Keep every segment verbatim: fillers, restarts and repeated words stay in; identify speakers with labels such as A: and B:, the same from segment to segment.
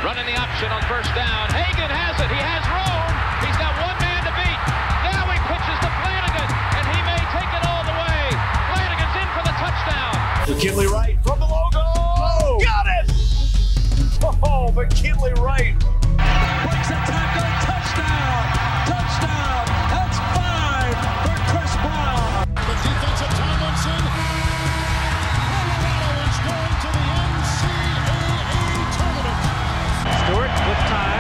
A: Running the option on first down. Hagan has it. He has room. He's got one man to beat. Now he pitches to Flanagan, and he may take it all the way. Flanagan's in for the touchdown.
B: McKinley Wright from the logo. Oh, got it! Oh, McKinley Wright.
C: Breaks a tackle. Touchdown. Touchdown. That's five for Chris Brown.
D: The defensive Tomlinson. Colorado is going to the N C double A tournament.
C: Stewart with time.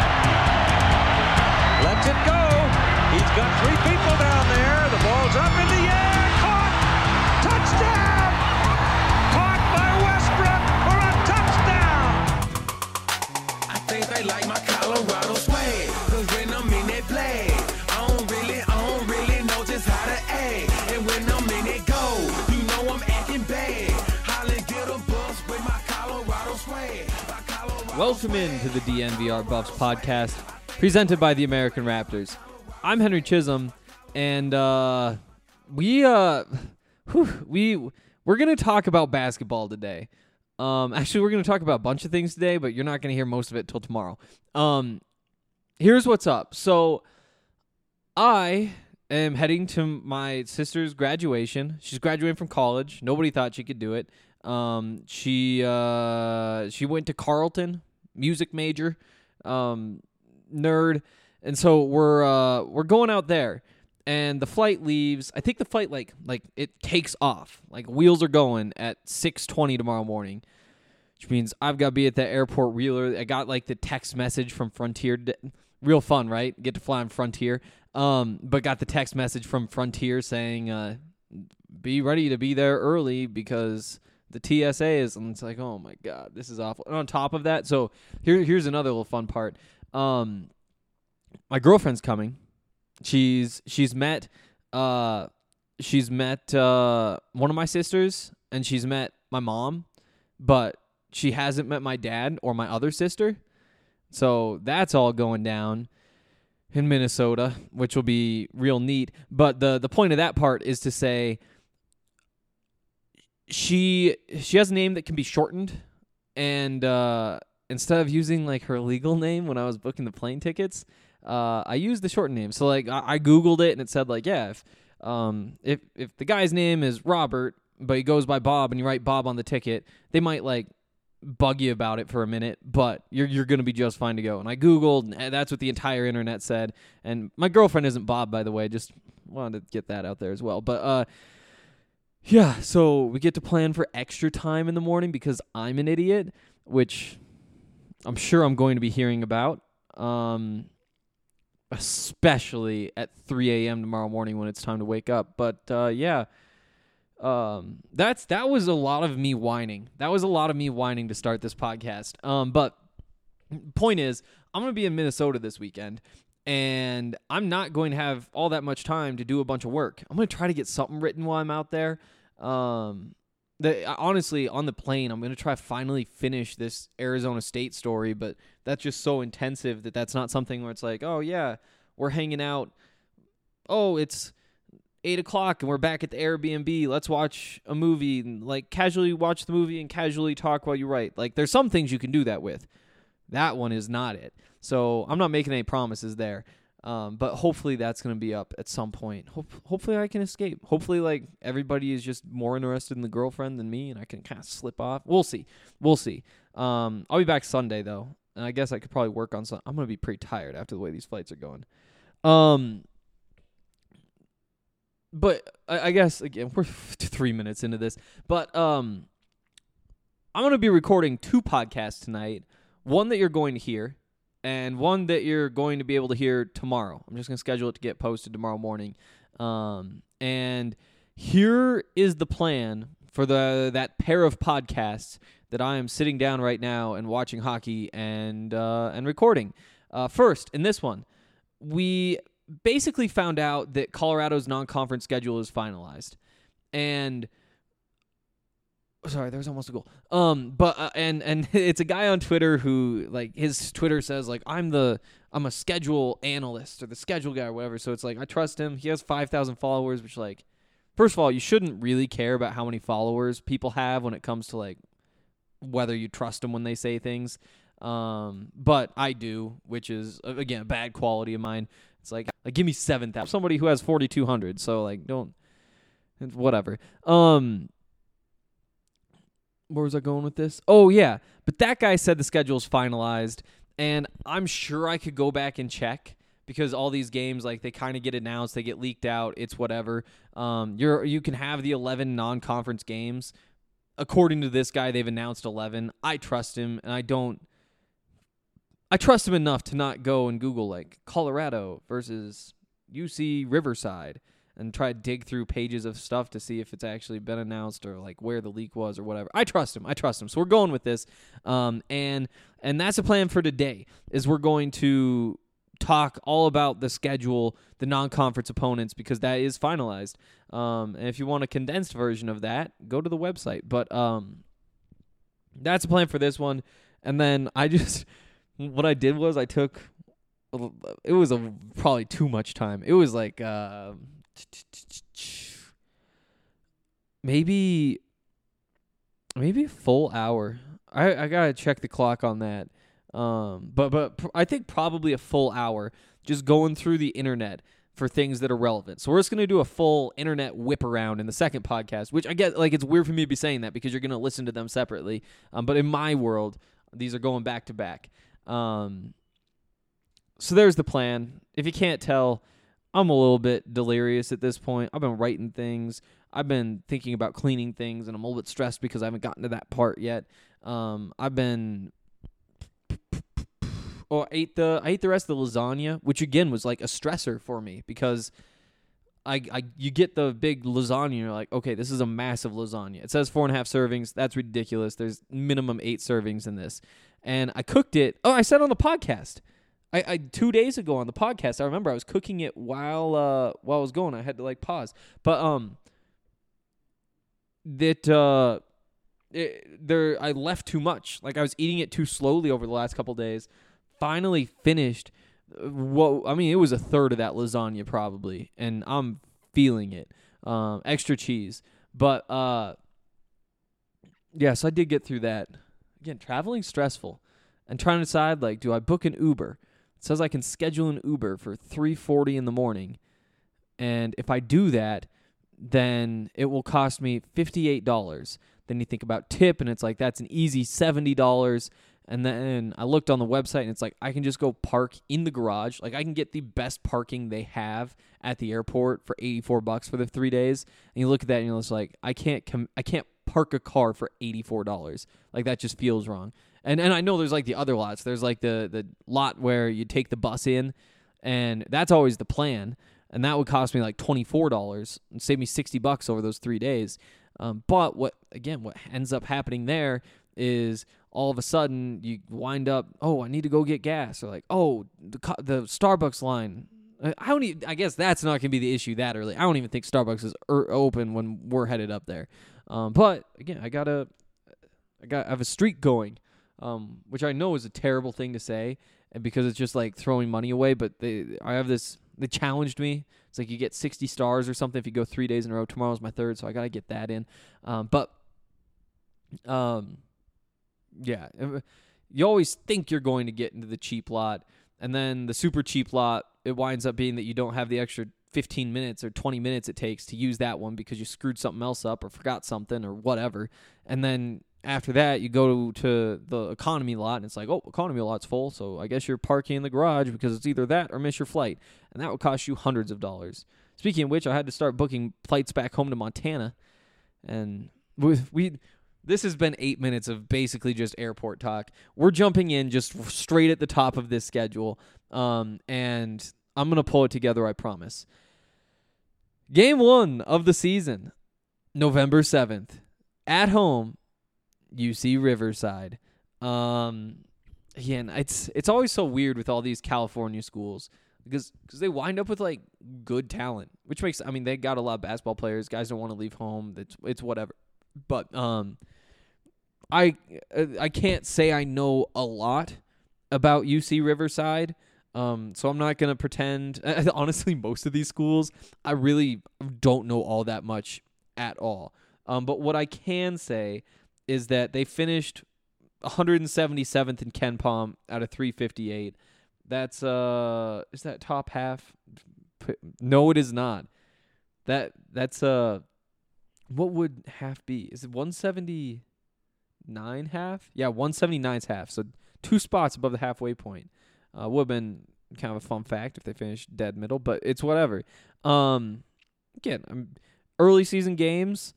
C: Lets it go. He's got three people down there. The ball's up in the air. Caught. Touchdown. Caught by Westbrook for a touchdown.
E: I think they like my Colorado swag. Cause when I'm in that play, I don't really, I don't really know just how to act. And when I'm in it go, you know I'm acting bad. Holly get a bus with my Colorado swag. My Colorado
F: Welcome into the D N V R Buffs podcast, presented by the American Raptors. I'm Henry Chisholm, and uh, we uh, whew, we we're gonna talk about basketball today. Um, actually, we're gonna talk about a bunch of things today, but you're not gonna hear most of it till tomorrow. Um, here's what's up. So, I am heading to my sister's graduation. She's graduating from college. Nobody thought she could do it. Um, she uh, she went to Carleton, music major, um, nerd, and so we're uh, we're going out there, and the flight leaves. I think the flight like like it takes off, like wheels are going at six twenty tomorrow morning, which means I've got to be at the airport. Wheeler, I got like the text message from Frontier. Real fun, right? Get to fly on Frontier. Um, but got the text message from Frontier saying, uh, "Be ready to be there early because the T S A is." And it's like, oh my god, this is awful. And on top of that, so here here's another little fun part. Um, my girlfriend's coming. She's she's met uh she's met uh one of my sisters, and she's met my mom, but she hasn't met my dad or my other sister. So that's all going down in Minnesota, which will be real neat. But the the point of that part is to say she she has a name that can be shortened, and uh, instead of using like her legal name when I was booking the plane tickets, uh, I used the shortened name. So like I, I Googled it, and it said like, yeah, if um if if the guy's name is Robert, but he goes by Bob, and you write Bob on the ticket, they might like bug you about it for a minute, but you're you're gonna be just fine to go. And I Googled, and that's what the entire internet said. And my girlfriend isn't Bob, by the way. Just wanted to get that out there as well. But uh, yeah. So we get to plan for extra time in the morning because I'm an idiot, which I'm sure I'm going to be hearing about. Um, especially at three a.m. tomorrow morning when it's time to wake up. But uh, yeah. Um, that's, that was a lot of me whining. That was a lot of me whining to start this podcast. Um, but point is, I'm going to be in Minnesota this weekend, and I'm not going to have all that much time to do a bunch of work. I'm going to try to get something written while I'm out there. Um, the, honestly, on the plane, I'm going to try to finally finish this Arizona State story, but that's just so intensive that that's not something where it's like, oh yeah, we're hanging out. Oh, it's eight o'clock and we're back at the Airbnb. Let's watch a movie and like casually watch the movie and casually talk while you write. Like there's some things you can do that with. That one is not it. So I'm not making any promises there. Um, but hopefully that's going to be up at some point. Hope, hopefully I can escape. Hopefully like everybody is just more interested in the girlfriend than me and I can kind of slip off. We'll see. We'll see. Um, I'll be back Sunday though. And I guess I could probably work on some. I'm going to be pretty tired after the way these flights are going. Um, But I, I guess, again, we're three minutes into this. But um, I'm going to be recording two podcasts tonight. One that you're going to hear, and one that you're going to be able to hear tomorrow. I'm just going to schedule it to get posted tomorrow morning. Um, and here is the plan for the that pair of podcasts that I am sitting down right now and watching hockey and uh, and recording. Uh, first, in this one, we basically found out that Colorado's non-conference schedule is finalized, and sorry, there was almost a goal. Um, but uh, and and it's a guy on Twitter who like his Twitter says like I'm the I'm a schedule analyst or the schedule guy or whatever. So it's like I trust him. He has five thousand followers, which like first of all you shouldn't really care about how many followers people have when it comes to like whether you trust them when they say things. Um, but I do, which is uh, again a bad quality of mine. It's like, like give me seven thousand. Somebody who has forty-two hundred. So like, don't, whatever. Um, where was I going with this? Oh yeah, but that guy said the schedule's finalized, and I'm sure I could go back and check because all these games, like, they kind of get announced, they get leaked out. It's whatever. Um, you're you can have the eleven non-conference games. According to this guy, they've announced eleven. I trust him, and I don't. I trust him enough to not go and Google, like, Colorado versus U C Riverside and try to dig through pages of stuff to see if it's actually been announced or, like, where the leak was or whatever. I trust him. I trust him. So we're going with this. Um, and and that's the plan for today, is we're going to talk all about the schedule, the non-conference opponents, because that is finalized. Um, and if you want a condensed version of that, go to the website. But um, that's the plan for this one. And then I just... What I did was I took, it was a probably too much time. It was like uh, maybe maybe a full hour. I, I gotta check the clock on that. Um, but but pr- I think probably a full hour just going through the internet for things that are relevant. So we're just gonna do a full internet whip around in the second podcast, which I get, like, it's weird for me to be saying that because you're gonna listen to them separately. Um, but in my world, these are going back to back. Um, so there's the plan. If you can't tell, I'm a little bit delirious at this point. I've been writing things. I've been thinking about cleaning things, and I'm a little bit stressed because I haven't gotten to that part yet. Um, I've been, oh, I ate the, I ate the rest of the lasagna, which again was like a stressor for me because I, I, you get the big lasagna, and you're like, okay, this is a massive lasagna. It says four and a half servings. That's ridiculous. There's minimum eight servings in this. And I cooked it. Oh, I said on the podcast. I, I two days ago on the podcast, I remember I was cooking it while uh while I was going. I had to like pause. But um that uh it, there I left too much. Like I was eating it too slowly over the last couple days. Finally finished. What I mean, it was a third of that lasagna probably, and I'm feeling it. Um extra cheese. But uh yeah, so I did get through that. Again, traveling's stressful. And trying to decide, like, do I book an Uber? It says I can schedule an Uber for three forty in the morning. And if I do that, then it will cost me fifty-eight dollars. Then you think about tip, and it's like, that's an easy seventy dollars. And then I looked on the website, and it's like, I can just go park in the garage. Like, I can get the best parking they have at the airport for eighty-four bucks for the three days. And you look at that, and you're just like, I can't com- I can't park a car for eighty-four dollars. Like, that just feels wrong. And and I know there's like the other lots. There's like the, the lot where you take the bus in, and that's always the plan. And that would cost me like twenty-four dollars and save me sixty bucks over those three days. Um, but what, again, what ends up happening there is all of a sudden you wind up, oh, I need to go get gas. Or like, oh, the the Starbucks line. I don't even, I guess that's not going to be the issue that early. I don't even think Starbucks is er- open when we're headed up there. Um, but again, I gotta, I got, I have a streak going, um, which I know is a terrible thing to say, and because it's just like throwing money away. But they, I have this. They challenged me. It's like you get sixty stars or something if you go three days in a row. Tomorrow's my third, so I gotta get that in. Um, but, um, yeah, you always think you're going to get into the cheap lot, and then the super cheap lot, it winds up being that you don't have the extra fifteen minutes or twenty minutes it takes to use that one because you screwed something else up or forgot something or whatever. And then after that, you go to the economy lot, and it's like, oh, economy lot's full, so I guess you're parking in the garage because it's either that or miss your flight. And that would cost you hundreds of dollars. Speaking of which, I had to start booking flights back home to Montana. And we, we this has been eight minutes of basically just airport talk. We're jumping in just straight at the top of this schedule, um, and I'm going to pull it together, I promise. Game one of the season, November seventh, at home, U C Riverside. Um, again, it's it's always so weird with all these California schools because cause they wind up with like good talent, which makes, I mean, they got a lot of basketball players. Guys don't want to leave home. It's it's whatever. But um, I I can't say I know a lot about U C Riverside. Um, so I'm not gonna pretend. Honestly, most of these schools, I really don't know all that much at all. Um, but what I can say is that they finished one hundred seventy-seventh in Ken Palm out of three fifty-eight. That's uh, is that top half? No, it is not. That that's uh, what would half be? Is it one seventy-nine half? Yeah, one seventy-nine is half. So two spots above the halfway point. Uh, would have been kind of a fun fact if they finished dead middle, but it's whatever. Um, again, I'm, early season games.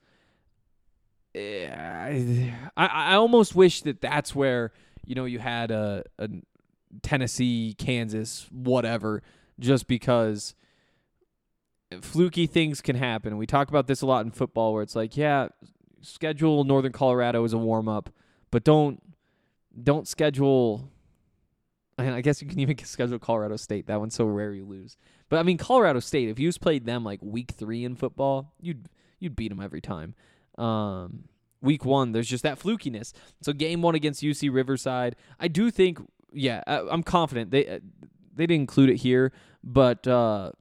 F: I, I almost wish that that's where, you know, you had a, a Tennessee, Kansas, whatever, just because fluky things can happen. We talk about this a lot in football where it's like, yeah, schedule Northern Colorado as a warm-up, but don't don't schedule, and I guess you can even schedule Colorado State. That one's so rare you lose. But, I mean, Colorado State, if you just played them like week three in football, you'd you'd beat them every time. Um, week one, there's just that flukiness. So game one against U C Riverside, I do think, yeah, I, I'm confident they uh, they didn't include it here, but uh,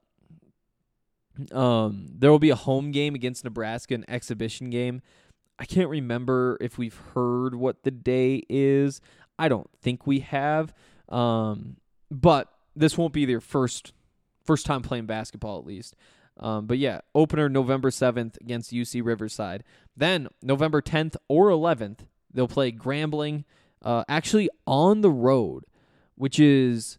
F: um, there will be a home game against Nebraska, an exhibition game. I can't remember if we've heard what the day is. I don't think we have, um, but this won't be their first first time playing basketball, at least. Um, but yeah, opener November seventh against U C Riverside. Then November tenth or eleventh, they'll play Grambling, uh, actually on the road, which is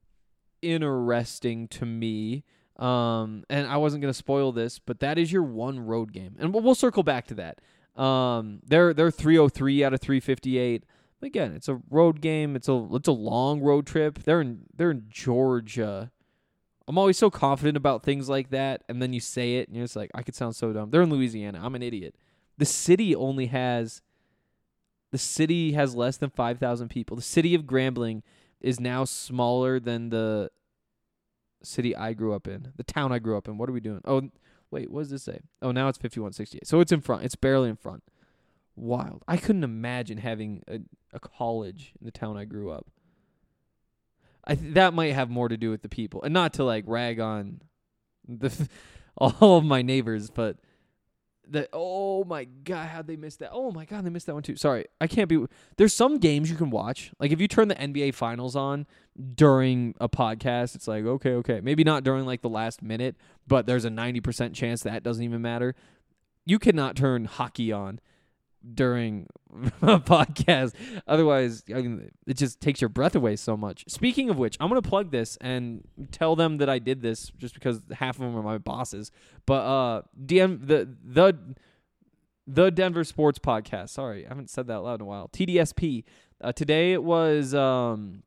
F: interesting to me. Um, and I wasn't going to spoil this, but that is your one road game. And we'll, we'll circle back to that. Um, they're they're three oh three out of three fifty-eight. But again, it's a road game. It's a it's a long road trip. They're in they're in Georgia. I'm always so confident about things like that, and then you say it, and you're just like, I could sound so dumb. They're in Louisiana. I'm an idiot. The city only has, the city has less than five thousand people. The city of Grambling is now smaller than the city I grew up in, the town I grew up in. What are we doing? Oh, wait, what does this say? Oh, now it's fifty-one sixty-eight. So it's in front. It's barely in front. Wild. I couldn't imagine having a, a college in the town I grew up. I th- that might have more to do with the people, and not to like rag on the all of my neighbors, but the oh my god, how'd they miss that? Oh my god, they missed that one too. Sorry, I can't be. There's some games you can watch, like if you turn the N B A Finals on during a podcast, it's like okay, okay, maybe not during like the last minute, but there's a ninety percent chance that doesn't even matter. You cannot turn hockey on during a podcast. Otherwise, I mean, it just takes your breath away so much. Speaking of which, I'm going to plug this and tell them that I did this just because half of them are my bosses. But uh, D M the the the Denver Sports Podcast. Sorry, I haven't said that out loud in a while. T D S P. Uh, today it was um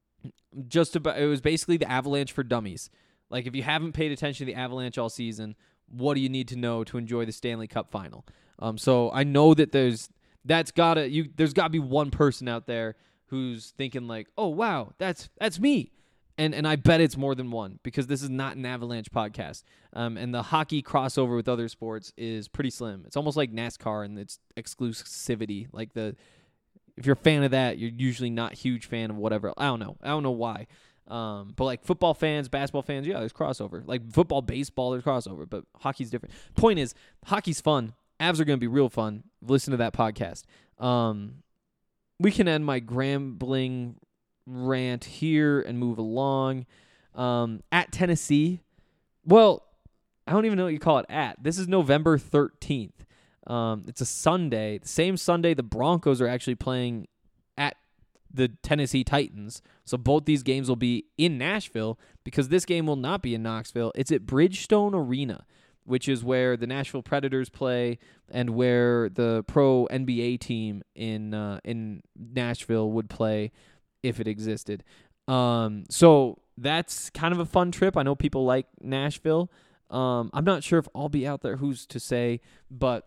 F: just about. It was basically the Avalanche for dummies. Like if you haven't paid attention to the Avalanche all season, what do you need to know to enjoy the Stanley Cup final? Um, so I know that there's that's gotta you there's gotta be one person out there who's thinking like, oh wow, that's that's me, and and I bet it's more than one because this is not an Avalanche podcast. Um, and the hockey crossover with other sports is pretty slim. It's almost like NASCAR and its exclusivity. Like the if you're a fan of that, you're usually not a huge fan of whatever. I don't know. I don't know why. Um, but like football fans, basketball fans, yeah, there's crossover. Like football, baseball, there's crossover, but hockey's different. Point is, hockey's fun. Avs are going to be real fun. Listen to that podcast. Um, we can end my Grambling rant here and move along. Um, at Tennessee, well, I don't even know what you call it at. This is November thirteenth. Um, it's a Sunday. The same Sunday the Broncos are actually playing at the Tennessee Titans. So both these games will be in Nashville because this game will not be in Knoxville. It's at Bridgestone Arena, which is where the Nashville Predators play and where the pro N B A team in uh, in Nashville would play if it existed. Um, so that's kind of a fun trip. I know people like Nashville. Um, I'm not sure if I'll be out there. Who's to say? But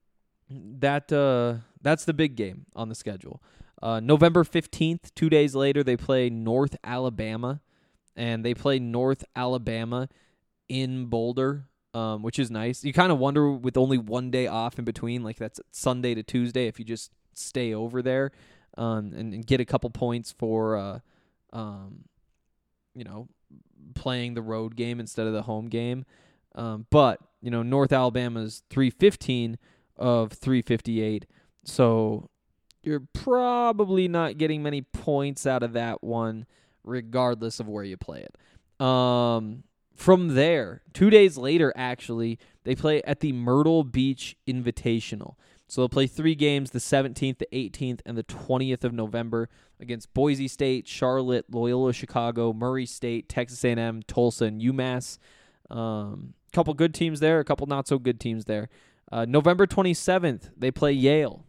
F: that uh, that's the big game on the schedule. Uh, November fifteenth, two days later, they play North Alabama, and they play North Alabama in Boulder. Um, which is nice. You kind of wonder with only one day off in between, like that's Sunday to Tuesday, if you just stay over there um, and, and get a couple points for, uh, um, you know, playing the road game instead of the home game. Um, but, you know, North Alabama's three fifteen of three fifty-eight. So you're probably not getting many points out of that one, regardless of where you play it. Um, from there, two days later, actually, they play at the Myrtle Beach Invitational. So they'll play three games, the seventeenth, the eighteenth, and the twentieth of November against Boise State, Charlotte, Loyola Chicago, Murray State, Texas A and M, Tulsa, and UMass. Um, a couple good teams there, a couple not so good teams there. Uh, November twenty-seventh, they play Yale.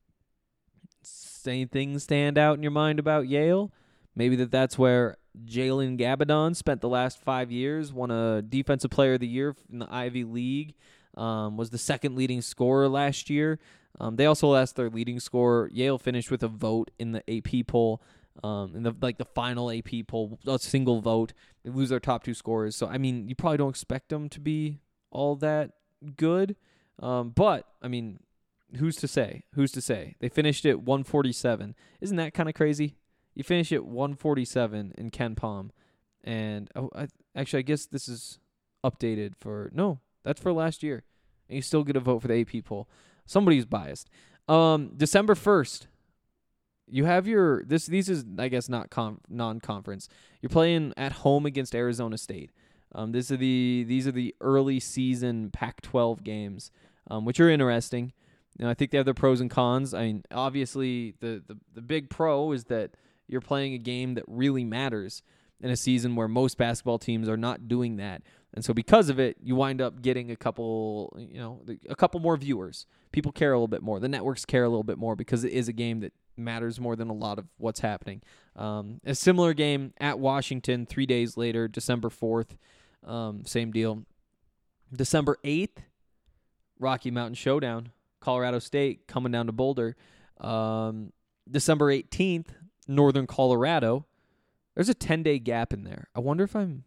F: Anything stand out in your mind about Yale? Maybe that that's where Jalen Gabadon spent the last five years, won a Defensive Player of the Year in the Ivy League, um, was the second leading scorer last year. Um, they also lost their leading scorer. Yale finished with a vote in the A P poll, um, in the like the final A P poll, a single vote. They lose their top two scorers. So, I mean, you probably don't expect them to be all that good. Um, but, I mean, who's to say? Who's to say? They finished at one forty-seven. Isn't that kind of crazy? You finish at one forty-seven in Ken Palm. And, oh, I, actually, I guess this is updated for, no, that's for last year. And you still get a vote for the A P poll. Somebody's biased. Um, December first, you have your, this. these is, I guess, not com- non-conference. You're playing at home against Arizona State. Um, this are the These are the early season Pac twelve games, um, which are interesting. You know, I think they have their pros and cons. I mean, obviously, the, the, the big pro is that you're playing a game that really matters in a season where most basketball teams are not doing that. And so because of it, you wind up getting a couple, you know, a couple more viewers. People care a little bit more. The networks care a little bit more because it is a game that matters more than a lot of what's happening. Um, a similar game at Washington three days later, December fourth, um, same deal. December eighth, Rocky Mountain Showdown. Colorado State coming down to Boulder. Um, December eighteenth, Northern Colorado. There's a ten-day gap in there. I wonder if I'm...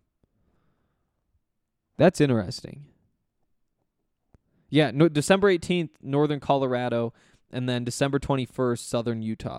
F: That's interesting. Yeah, no, December eighteenth, Northern Colorado, and then December twenty-first, Southern Utah.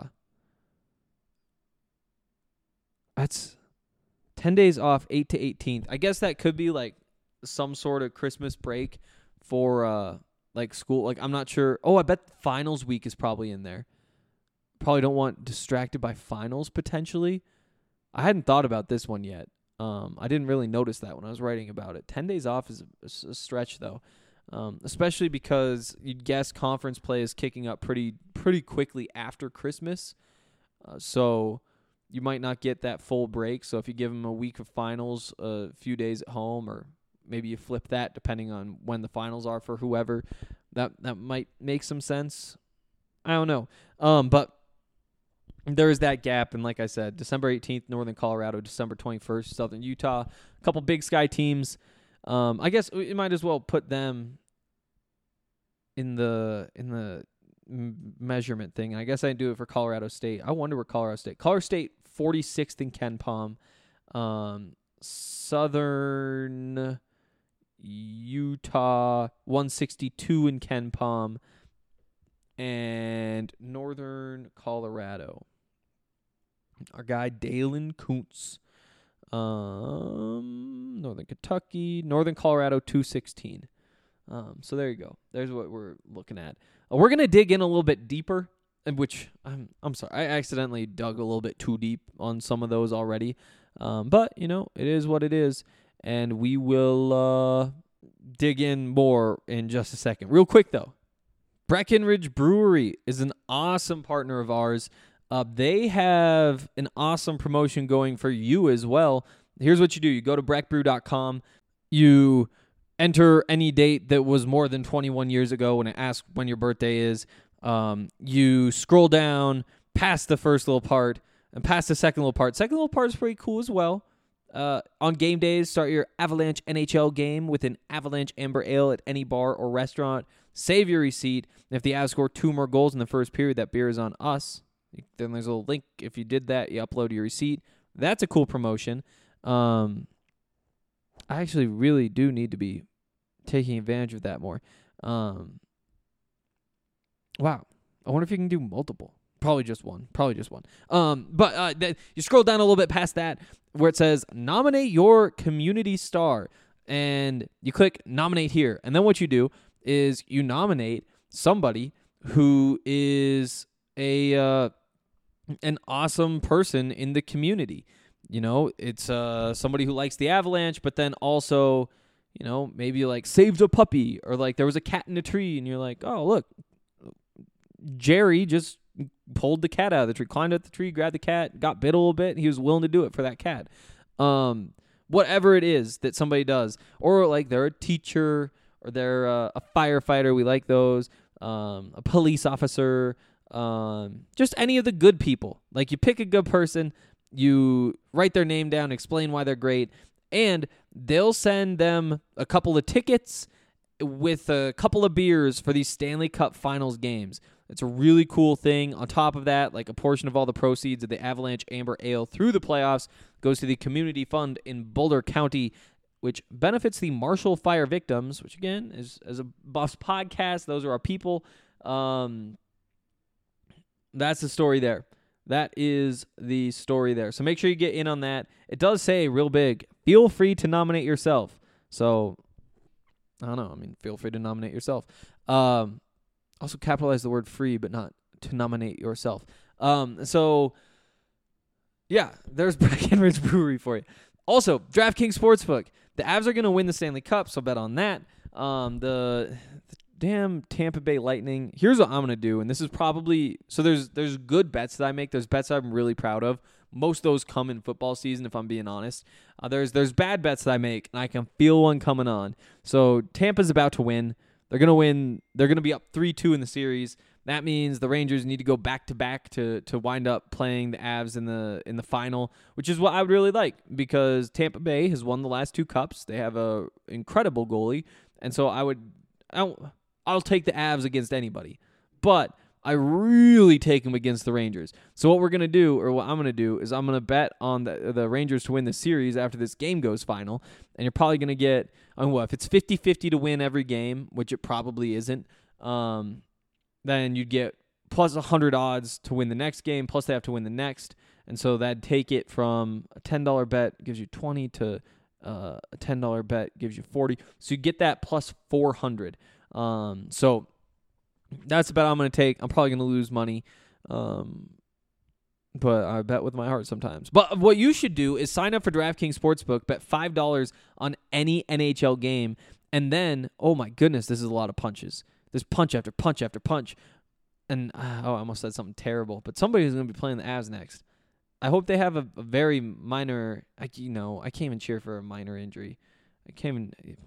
F: That's ten days off, eighth to eighteenth. I guess that could be like some sort of Christmas break for... Uh, Like school, like I'm not sure. Oh, I bet finals week is probably in there. Probably don't want distracted by finals potentially. I hadn't thought about this one yet. Um, I didn't really notice that when I was writing about it. Ten days off is a, a stretch though, um, especially because you'd guess conference play is kicking up pretty pretty quickly after Christmas. Uh, so you might not get that full break. So if you give them a week of finals, a few days at home, or maybe you flip that depending on when the finals are for whoever. That that might make some sense. I don't know. Um, but there is that gap. And like I said, December eighteenth, Northern Colorado, December twenty-first, Southern Utah. A couple Big Sky teams. Um, I guess we might as well put them in the in the m- measurement thing. And I guess I do it for Colorado State. I wonder where Colorado State. Colorado State, forty-sixth in Ken Palm. Um, Southern Utah, one sixty-two in Ken Palm, and Northern Colorado. Our guy Dalen Kuntz, um, Northern Kentucky, Northern Colorado, two sixteen. Um, so there you go. There's what we're looking at. Uh, we're gonna dig in a little bit deeper, which I'm I'm sorry, I accidentally dug a little bit too deep on some of those already. Um, but you know, it is what it is. And we will uh, dig in more in just a second. Real quick, though, Breckenridge Brewery is an awesome partner of ours. Uh, they have an awesome promotion going for you as well. Here's what you do. You go to breck brew dot com. You enter any date that was more than twenty-one years ago when it asks when your birthday is. Um, you scroll down past the first little part and past the second little part. Second little part is pretty cool as well. Uh, on game days, start your Avalanche N H L game with an Avalanche Amber Ale at any bar or restaurant. Save your receipt. And if the Avs score two more goals in the first period, that beer is on us. Then there's a little link. If you did that, you upload your receipt. That's a cool promotion. Um, I actually really do need to be taking advantage of that more. Um, wow. I wonder if you can do multiple. Probably just one. Probably just one. Um, but uh, th- you scroll down a little bit past that where it says nominate your community star. And you click nominate here. And then what you do is you nominate somebody who is a uh, an awesome person in the community. You know, it's uh, somebody who likes the Avalanche, but then also, you know, maybe like saved a puppy, or like there was a cat in a tree and you're like, oh, look, Jerry just pulled the cat out of the tree, climbed up the tree, grabbed the cat, got bit a little bit. He was willing to do it for that cat. Um, whatever it is that somebody does, or like they're a teacher or they're uh, a firefighter. We like those. Um, a police officer, um, just any of the good people. Like you pick a good person, you write their name down, explain why they're great, and they'll send them a couple of tickets with a couple of beers for these Stanley Cup Finals games. It's a really cool thing. On top of that, like a portion of all the proceeds of the Avalanche Amber Ale through the playoffs goes to the community fund in Boulder County, which benefits the Marshall Fire victims, which again is as a Buffs podcast. Those are our people. Um, that's the story there. That is the story there. So make sure you get in on that. It does say real big, feel free to nominate yourself. So I don't know. I mean, feel free to nominate yourself. Um, also capitalize the word free, but not to nominate yourself. Um, so yeah, there's Breckenridge Brewery for you. Also, DraftKings Sportsbook. The Avs are going to win the Stanley Cup, so bet on that. Um, the, the damn Tampa Bay Lightning. Here's what I'm going to do, and this is probably – so there's there's good bets that I make. There's bets I'm really proud of. Most of those come in football season, if I'm being honest. Uh, there's there's bad bets that I make, and I can feel one coming on. So Tampa's about to win. They're going to win. They're going to be up three two in the series. That means the Rangers need to go back-to-back to to wind up playing the Avs in the in the final, which is what I would really like because Tampa Bay has won the last two cups. They have a incredible goalie, and so I would I'll, I'll take the Avs against anybody. But I really take them against the Rangers. So what we're going to do, or what I'm going to do, is I'm going to bet on the the Rangers to win the series after this game goes final, and you're probably going to get, I mean, what, if it's fifty-fifty to win every game, which it probably isn't, um, then you'd get plus one hundred odds to win the next game, plus they have to win the next. And so that'd take it from a ten dollar bet gives you twenty to uh, a ten dollar bet gives you forty. So you get that plus four hundred. Um, so that's the bet I'm going to take. I'm probably going to lose money, um, but I bet with my heart sometimes. But what you should do is sign up for DraftKings Sportsbook, bet five dollars on any N H L game, and then, oh my goodness, this is a lot of punches. There's punch after punch after punch. And, uh, oh, I almost said something terrible. But somebody's going to be playing the Avs next. I hope they have a, a very minor, I, you know, I can't even cheer for a minor injury. I can't even,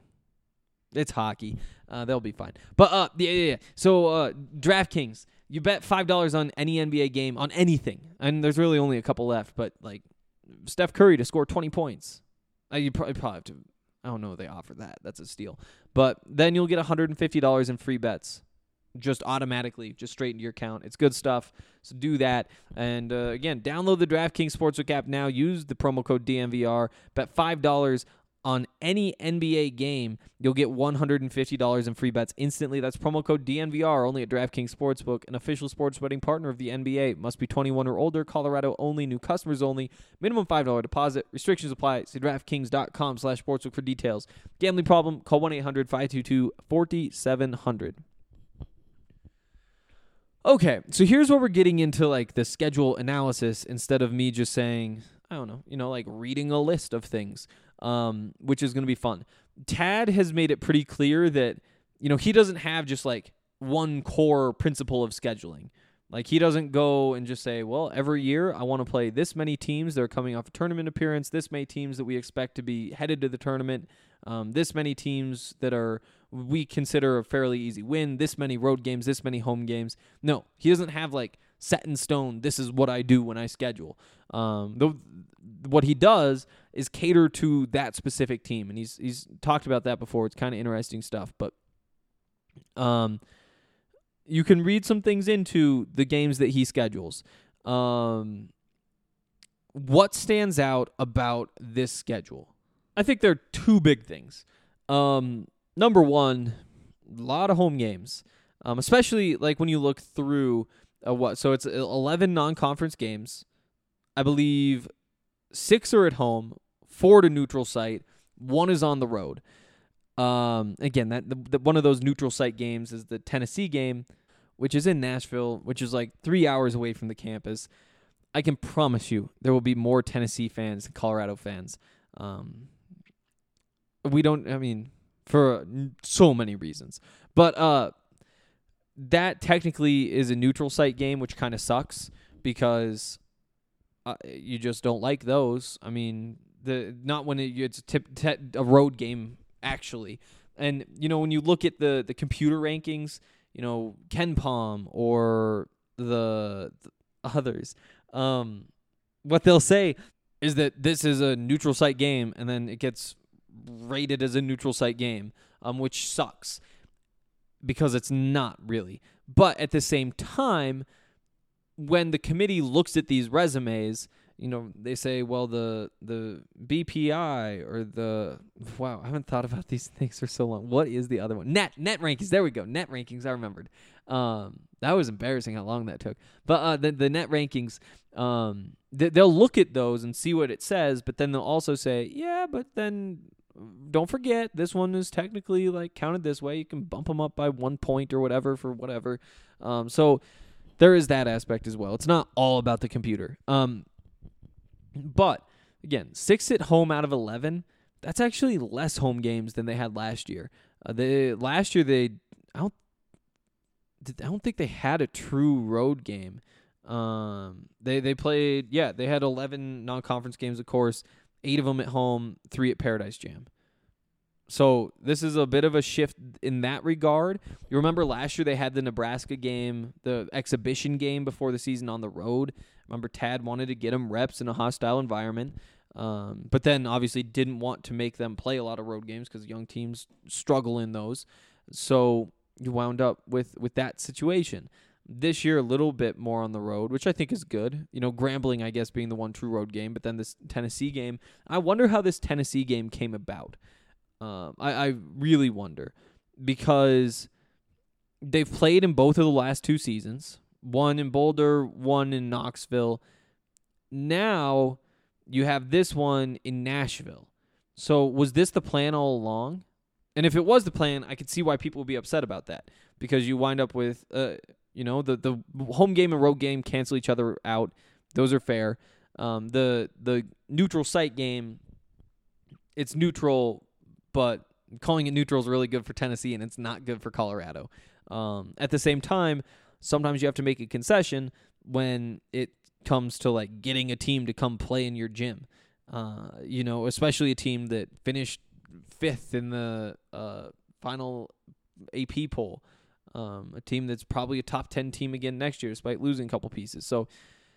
F: it's hockey. Uh, they'll be fine. But, uh, yeah, yeah, yeah. So, uh, DraftKings, you bet five dollars on any N B A game, on anything. And there's really only a couple left. But, like, Steph Curry to score twenty points. Uh, you probably, probably have to, I don't know if they offer that. That's a steal. But then you'll get one hundred fifty dollars in free bets just automatically, just straight into your account. It's good stuff. So do that. And, uh, again, download the DraftKings Sportsbook app now. Use the promo code D M V R. Bet five dollars on any N B A game. You'll get one hundred fifty dollars in free bets instantly. That's promo code D N V R only at DraftKings Sportsbook, an official sports betting partner of the N B A. Must be twenty-one or older. Colorado only. New customers only. Minimum five dollars deposit. Restrictions apply. See DraftKings.com slash sportsbook for details. Gambling problem? Call one eight hundred five two two four seven zero zero. Okay, so here's where we're getting into like the schedule analysis instead of me just saying, I don't know, you know, like reading a list of things, um, which is going to be fun. Tad has made it pretty clear that, you know, he doesn't have just like one core principle of scheduling. Like he doesn't go and just say, well, every year I want to play this many teams that are coming off a tournament appearance, this many teams that we expect to be headed to the tournament, um, this many teams that are we consider a fairly easy win, this many road games, this many home games. No, he doesn't have like set in stone, this is what I do when I schedule. Um, the, what he does is cater to that specific team, and he's he's talked about that before. It's kind of interesting stuff, but um, you can read some things into the games that he schedules. Um, what stands out about this schedule? I think there are two big things. Um, number one, a lot of home games, um, especially like when you look through uh, what. So it's eleven non-conference games. I believe six are at home, four to neutral site, one is on the road. Um, again, that the, the, one of those neutral site games is the Tennessee game, which is in Nashville, which is like three hours away from the campus, I can promise you there will be more Tennessee fans than Colorado fans. Um, we don't, I mean, for so many reasons. But uh, that technically is a neutral site game, which kind of sucks because uh, you just don't like those. I mean, the not when it, it's a, tip, te- a road game, actually. And, you know, when you look at the, the computer rankings, you know, Ken Palm or the, the others, um, what they'll say is that this is a neutral site game, and then it gets rated as a neutral site game, um, which sucks because it's not really. But at the same time, when the committee looks at these resumes, you know, they say, well, the the B P I or the, wow, I haven't thought about these things for so long. What is the other one? Net, net rankings. There we go. Net rankings. I remembered. Um, that was embarrassing how long that took. But uh, the, the net rankings, um, th- they'll look at those and see what it says, but then they'll also say, yeah, but then don't forget this one is technically like counted this way. You can bump them up by one point or whatever for whatever. Um, so there is that aspect as well. It's not all about the computer. Um, but again, six at home out of eleven. That's actually less home games than they had last year. Uh, they last year they I don't I don't think they had a true road game. Um, they they played yeah they had eleven non-conference games, of course, eight of them at home, three at Paradise Jam. So this is a bit of a shift in that regard. You remember last year they had the Nebraska game, the exhibition game before the season on the road. Remember Tad wanted to get them reps in a hostile environment, um, but then obviously didn't want to make them play a lot of road games because young teams struggle in those. So you wound up with, with that situation. This year, a little bit more on the road, which I think is good. You know, Grambling, I guess, being the one true road game, but then this Tennessee game. I wonder how this Tennessee game came about. Um, I, I really wonder because they've played in both of the last two seasons, one in Boulder, one in Knoxville. Now you have this one in Nashville. So was this the plan all along? And if it was the plan, I could see why people would be upset about that because you wind up with, uh, you know, the, the home game and road game cancel each other out. Those are fair. Um, the the neutral site game, it's neutral, but calling it neutral is really good for Tennessee, and it's not good for Colorado. Um, at the same time, sometimes you have to make a concession when it comes to like getting a team to come play in your gym. Uh, you know, especially a team that finished fifth in the uh, final A P poll. Um, a team that's probably a top ten team again next year, despite losing a couple pieces. So,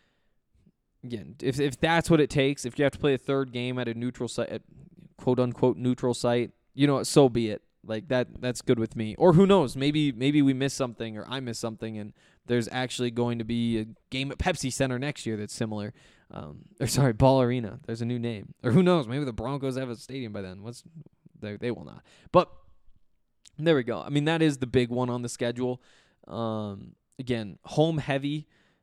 F: again, if if that's what it takes, if you have to play a third game at a neutral site, at quote unquote neutral site, you know, so be it. Like that, that's good with me. Or who knows? Maybe maybe we miss something, or I miss something, and there's actually going to be a game at Pepsi Center next year that's similar. Um, or sorry, Ball Arena. There's a new name. Or who knows? Maybe the Broncos have a stadium by then. What's they they will not. But there we go. I mean, that is the big one on the schedule. Um, again, home heavy,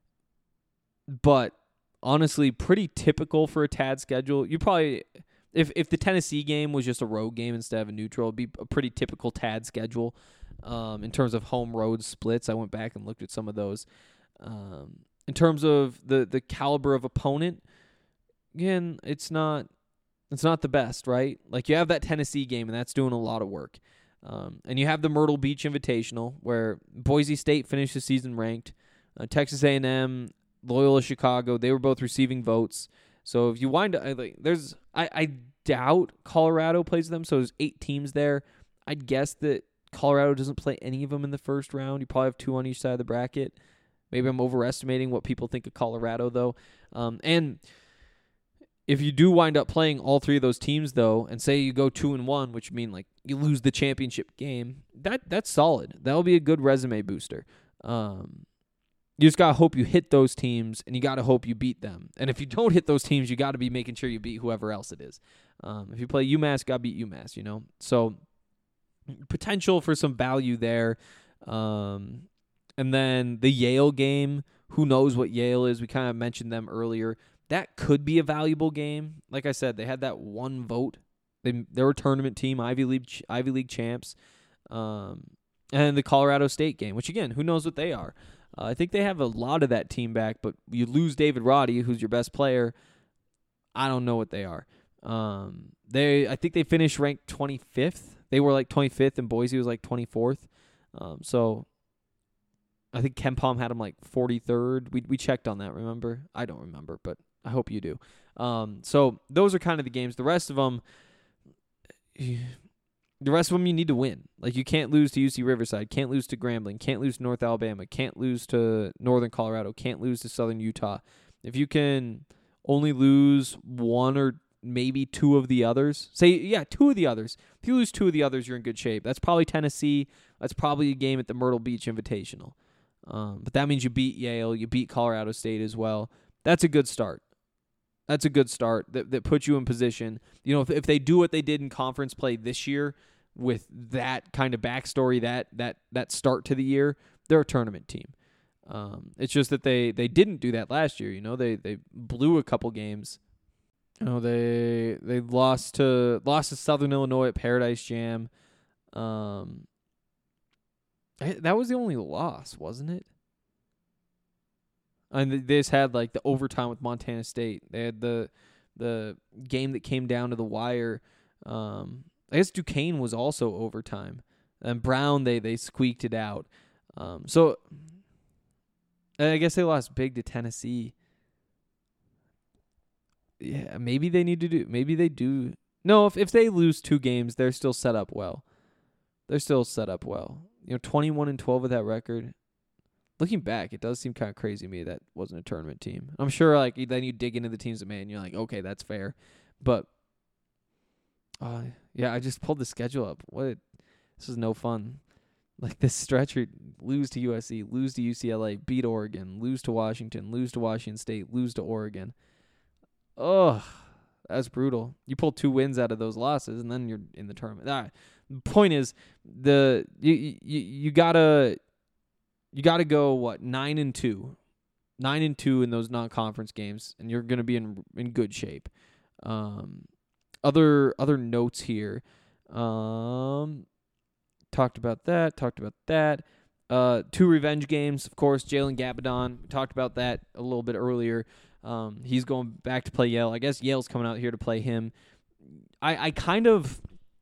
F: but honestly, pretty typical for a T A D schedule. You probably, if if the Tennessee game was just a road game instead of a neutral, it'd be a pretty typical T A D schedule um, in terms of home road splits. I went back and looked at some of those. Um, in terms of the the caliber of opponent, again, it's not it's not the best, right? Like you have that Tennessee game, and that's doing a lot of work. Um, and you have the Myrtle Beach Invitational, where Boise State finished the season ranked. Uh, Texas A and M, Loyola Chicago, they were both receiving votes. So if you wind up, like, there's, I, I doubt Colorado plays them. So there's eight teams there. I'd guess that Colorado doesn't play any of them in the first round. You probably have two on each side of the bracket. Maybe I'm overestimating what people think of Colorado, though. Um, and if you do wind up playing all three of those teams, though, and say you go two and one, which mean like you lose the championship game, that that's solid. That'll be a good resume booster. Um, you just gotta hope you hit those teams, and you gotta hope you beat them. And if you don't hit those teams, you gotta be making sure you beat whoever else it is. Um, if you play UMass, gotta beat UMass. You know, so potential for some value there. Um, and then the Yale game. Who knows what Yale is? We kind of mentioned them earlier. That could be a valuable game. Like I said, they had that one vote. They they were a tournament team, Ivy League Ivy League champs. Um, And the Colorado State game, which, again, who knows what they are. Uh, I think they have a lot of that team back, but you lose David Roddy, who's your best player. I don't know what they are. Um, they, I think they finished ranked twenty-fifth. They were like twenty-fifth, and Boise was like twenty-fourth. Um, so I think KenPom had them like forty-third. We we checked on that, remember? I don't remember, but I hope you do. Um, so those are kind of the games. The rest of them, the rest of them you need to win. Like, you can't lose to U C Riverside, can't lose to Grambling, can't lose to North Alabama, can't lose to Northern Colorado, can't lose to Southern Utah. If you can only lose one or maybe two of the others, say, yeah, two of the others. If you lose two of the others, you're in good shape. That's probably Tennessee. That's probably a game at the Myrtle Beach Invitational. Um, but that means you beat Yale, you beat Colorado State as well. That's a good start. That's a good start that, that puts you in position. You know, if, if they do what they did in conference play this year with that kind of backstory, that that that start to the year, they're a tournament team. Um, it's just that they, they didn't do that last year. You know, they they blew a couple games. You know, they they lost to lost to Southern Illinois at Paradise Jam. Um, that was the only loss, wasn't it? And they just had like the overtime with Montana State. They had the the game that came down to the wire. Um, I guess Duquesne was also overtime, and Brown they they squeaked it out. Um, so I guess they lost big to Tennessee. Yeah, maybe they need to do. Maybe they do. No, if if they lose two games, they're still set up well. They're still set up well. You know, twenty-one and twelve with that record. Looking back, it does seem kind of crazy to me that wasn't a tournament team. I'm sure, like, then you dig into the teams that made, and you're like, okay, that's fair. But, uh, yeah, I just pulled the schedule up. What? This is no fun. Like, this stretch, lose to U S C, lose to U C L A, beat Oregon, lose to Washington, lose to Washington State, lose to Oregon. Ugh, that's brutal. You pull two wins out of those losses, and then you're in the tournament. Ah, the point is, the you you you gotta you gotta go what nine and two, nine and two in those non-conference games, and you're gonna be in in good shape. Um, other other notes here. Um, talked about that. Talked about that. Uh, two revenge games, of course. Jalen Gabadon. We talked about that a little bit earlier. Um, he's going back to play Yale. I guess Yale's coming out here to play him. I, I kind of,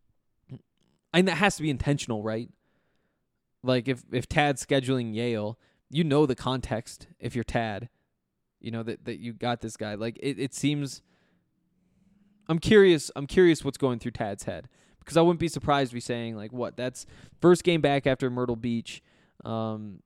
F: I mean, that has to be intentional, right? Like if, if Tad's scheduling Yale, you know the context if you're Tad, you know, that, that you got this guy. Like it, it seems, I'm curious, I'm curious what's going through Tad's head because I wouldn't be surprised to be saying like, what, that's first game back after Myrtle Beach. Um,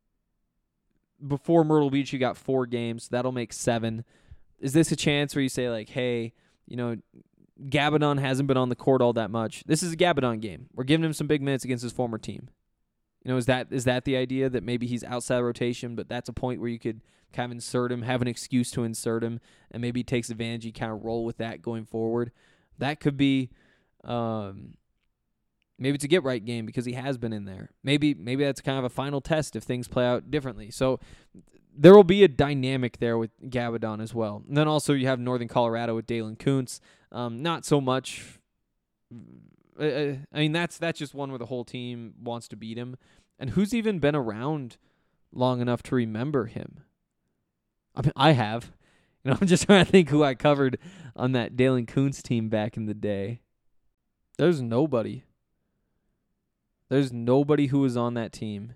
F: Before Myrtle Beach, you got four games. That'll make seven. Is this a chance where you say, like, hey, you know, Gabadon hasn't been on the court all that much. This is a Gabadon game. We're giving him some big minutes against his former team. You know, is that is that the idea that maybe he's outside rotation, but that's a point where you could kind of insert him, have an excuse to insert him, and maybe he takes advantage. You kind of roll with that going forward. That could be um, maybe it's a get-right game because he has been in there. Maybe maybe that's kind of a final test if things play out differently. So there will be a dynamic there with Gabadon as well. And then also you have Northern Colorado with Dalen Kuntz. Um, not so much. Uh, I mean, that's that's just one where the whole team wants to beat him. And who's even been around long enough to remember him? I mean, I have. You know, I'm just trying to think who I covered on that Dalen Kuntz team back in the day. There's nobody. There's nobody who was on that team.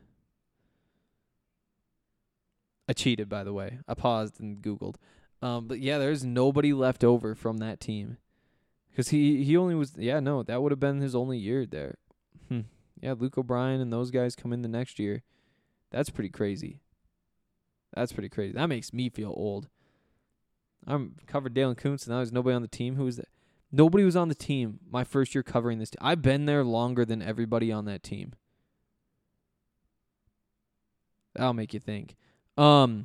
F: I cheated, by the way. I paused and Googled. Um, but, yeah, there's nobody left over from that team. Because he, he only was, yeah, no, that would have been his only year there. Hmm. Yeah, Luke O'Brien and those guys come in the next year. That's pretty crazy. That's pretty crazy. That makes me feel old. I'm covered Dalen Kuntz, and now there's nobody on the team. Who was that? Nobody was on the team my first year covering this team. I've been there longer than everybody on that team. That'll make you think. Um,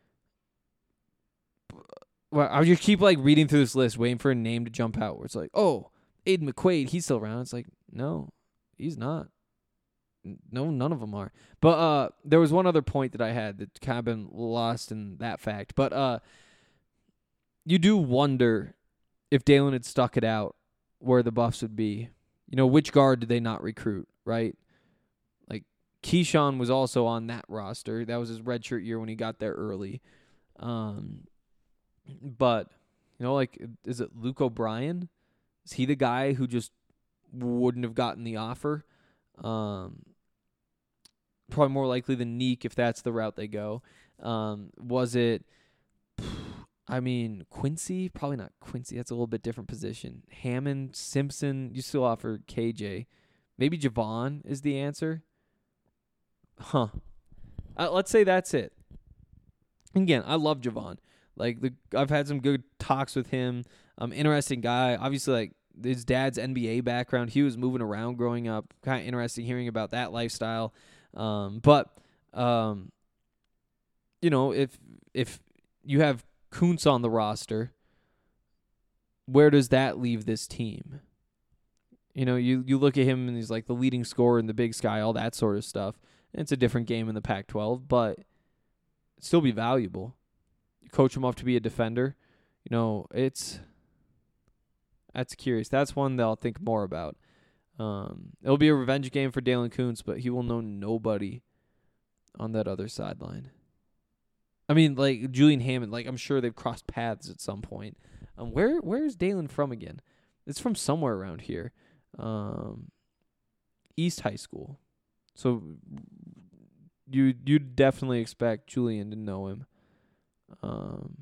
F: well, I just keep like reading through this list, waiting for a name to jump out. Where it's like, oh, Aiden McQuaid, he's still around. It's like, no, he's not. No, none of them are. But uh, there was one other point that I had that kind of been lost in that fact. But uh, you do wonder if Dalen had stuck it out, where the Buffs would be. You know, which guard did they not recruit, right? Like, Keyshawn was also on that roster. That was his redshirt year when he got there early. Um, but, you know, like, is it Luke O'Brien? Is he the guy who just wouldn't have gotten the offer? Um, probably more likely than Neek if that's the route they go. Um, was it, I mean, Quincy? Probably not Quincy. That's a little bit different position. Hammond, Simpson, you still offer K J. Maybe Javon is the answer. Huh. Uh, let's say that's it. Again, I love Javon. Like, the I've had some good talks with him. Um, interesting guy. Obviously, like, his dad's N B A background. He was moving around growing up. Kind of interesting hearing about that lifestyle. Um, but, um, you know, if if you have Kuntz on the roster, where does that leave this team? You know, you, you look at him and he's like the leading scorer in the Big Sky, all that sort of stuff. It's a different game in the Pac twelve, but still be valuable. You coach him up to be a defender. You know, it's that's curious. That's one that I'll think more about. Um, it'll be a revenge game for Dalen Kuntz, but he will know nobody on that other sideline. I mean, like Julian Hammond, like I'm sure they've crossed paths at some point. Um, where where is Dalen from again? It's from somewhere around here. Um, East High School. So you you definitely expect Julian to know him. Um,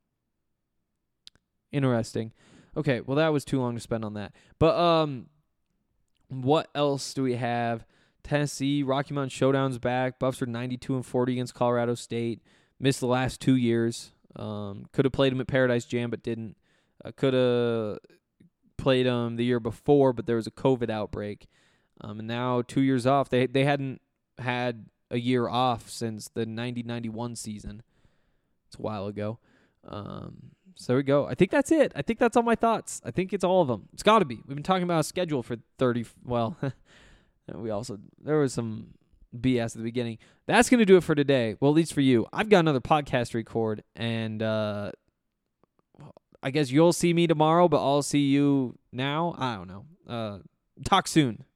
F: interesting. Okay, well that was too long to spend on that. But um, what else do we have? Tennessee, Rocky Mountain Showdown's back. Buffs are ninety-two and forty against Colorado State. Missed the last two years. Um, could have played him at Paradise Jam, but didn't. Uh, could have played him the year before, but there was a COVID outbreak. Um, and now two years off. They they hadn't had a year off since the ninety ninety-one season. It's a while ago. Um, so there we go. I think that's it. I think that's all my thoughts. I think it's all of them. It's got to be. We've been talking about a schedule for thirty. Well, we also there was some B S at the beginning. That's going to do it for today. Well, at least for you. I've got another podcast to record, and uh, I guess you'll see me tomorrow, but I'll see you now. I don't know. Uh, talk soon.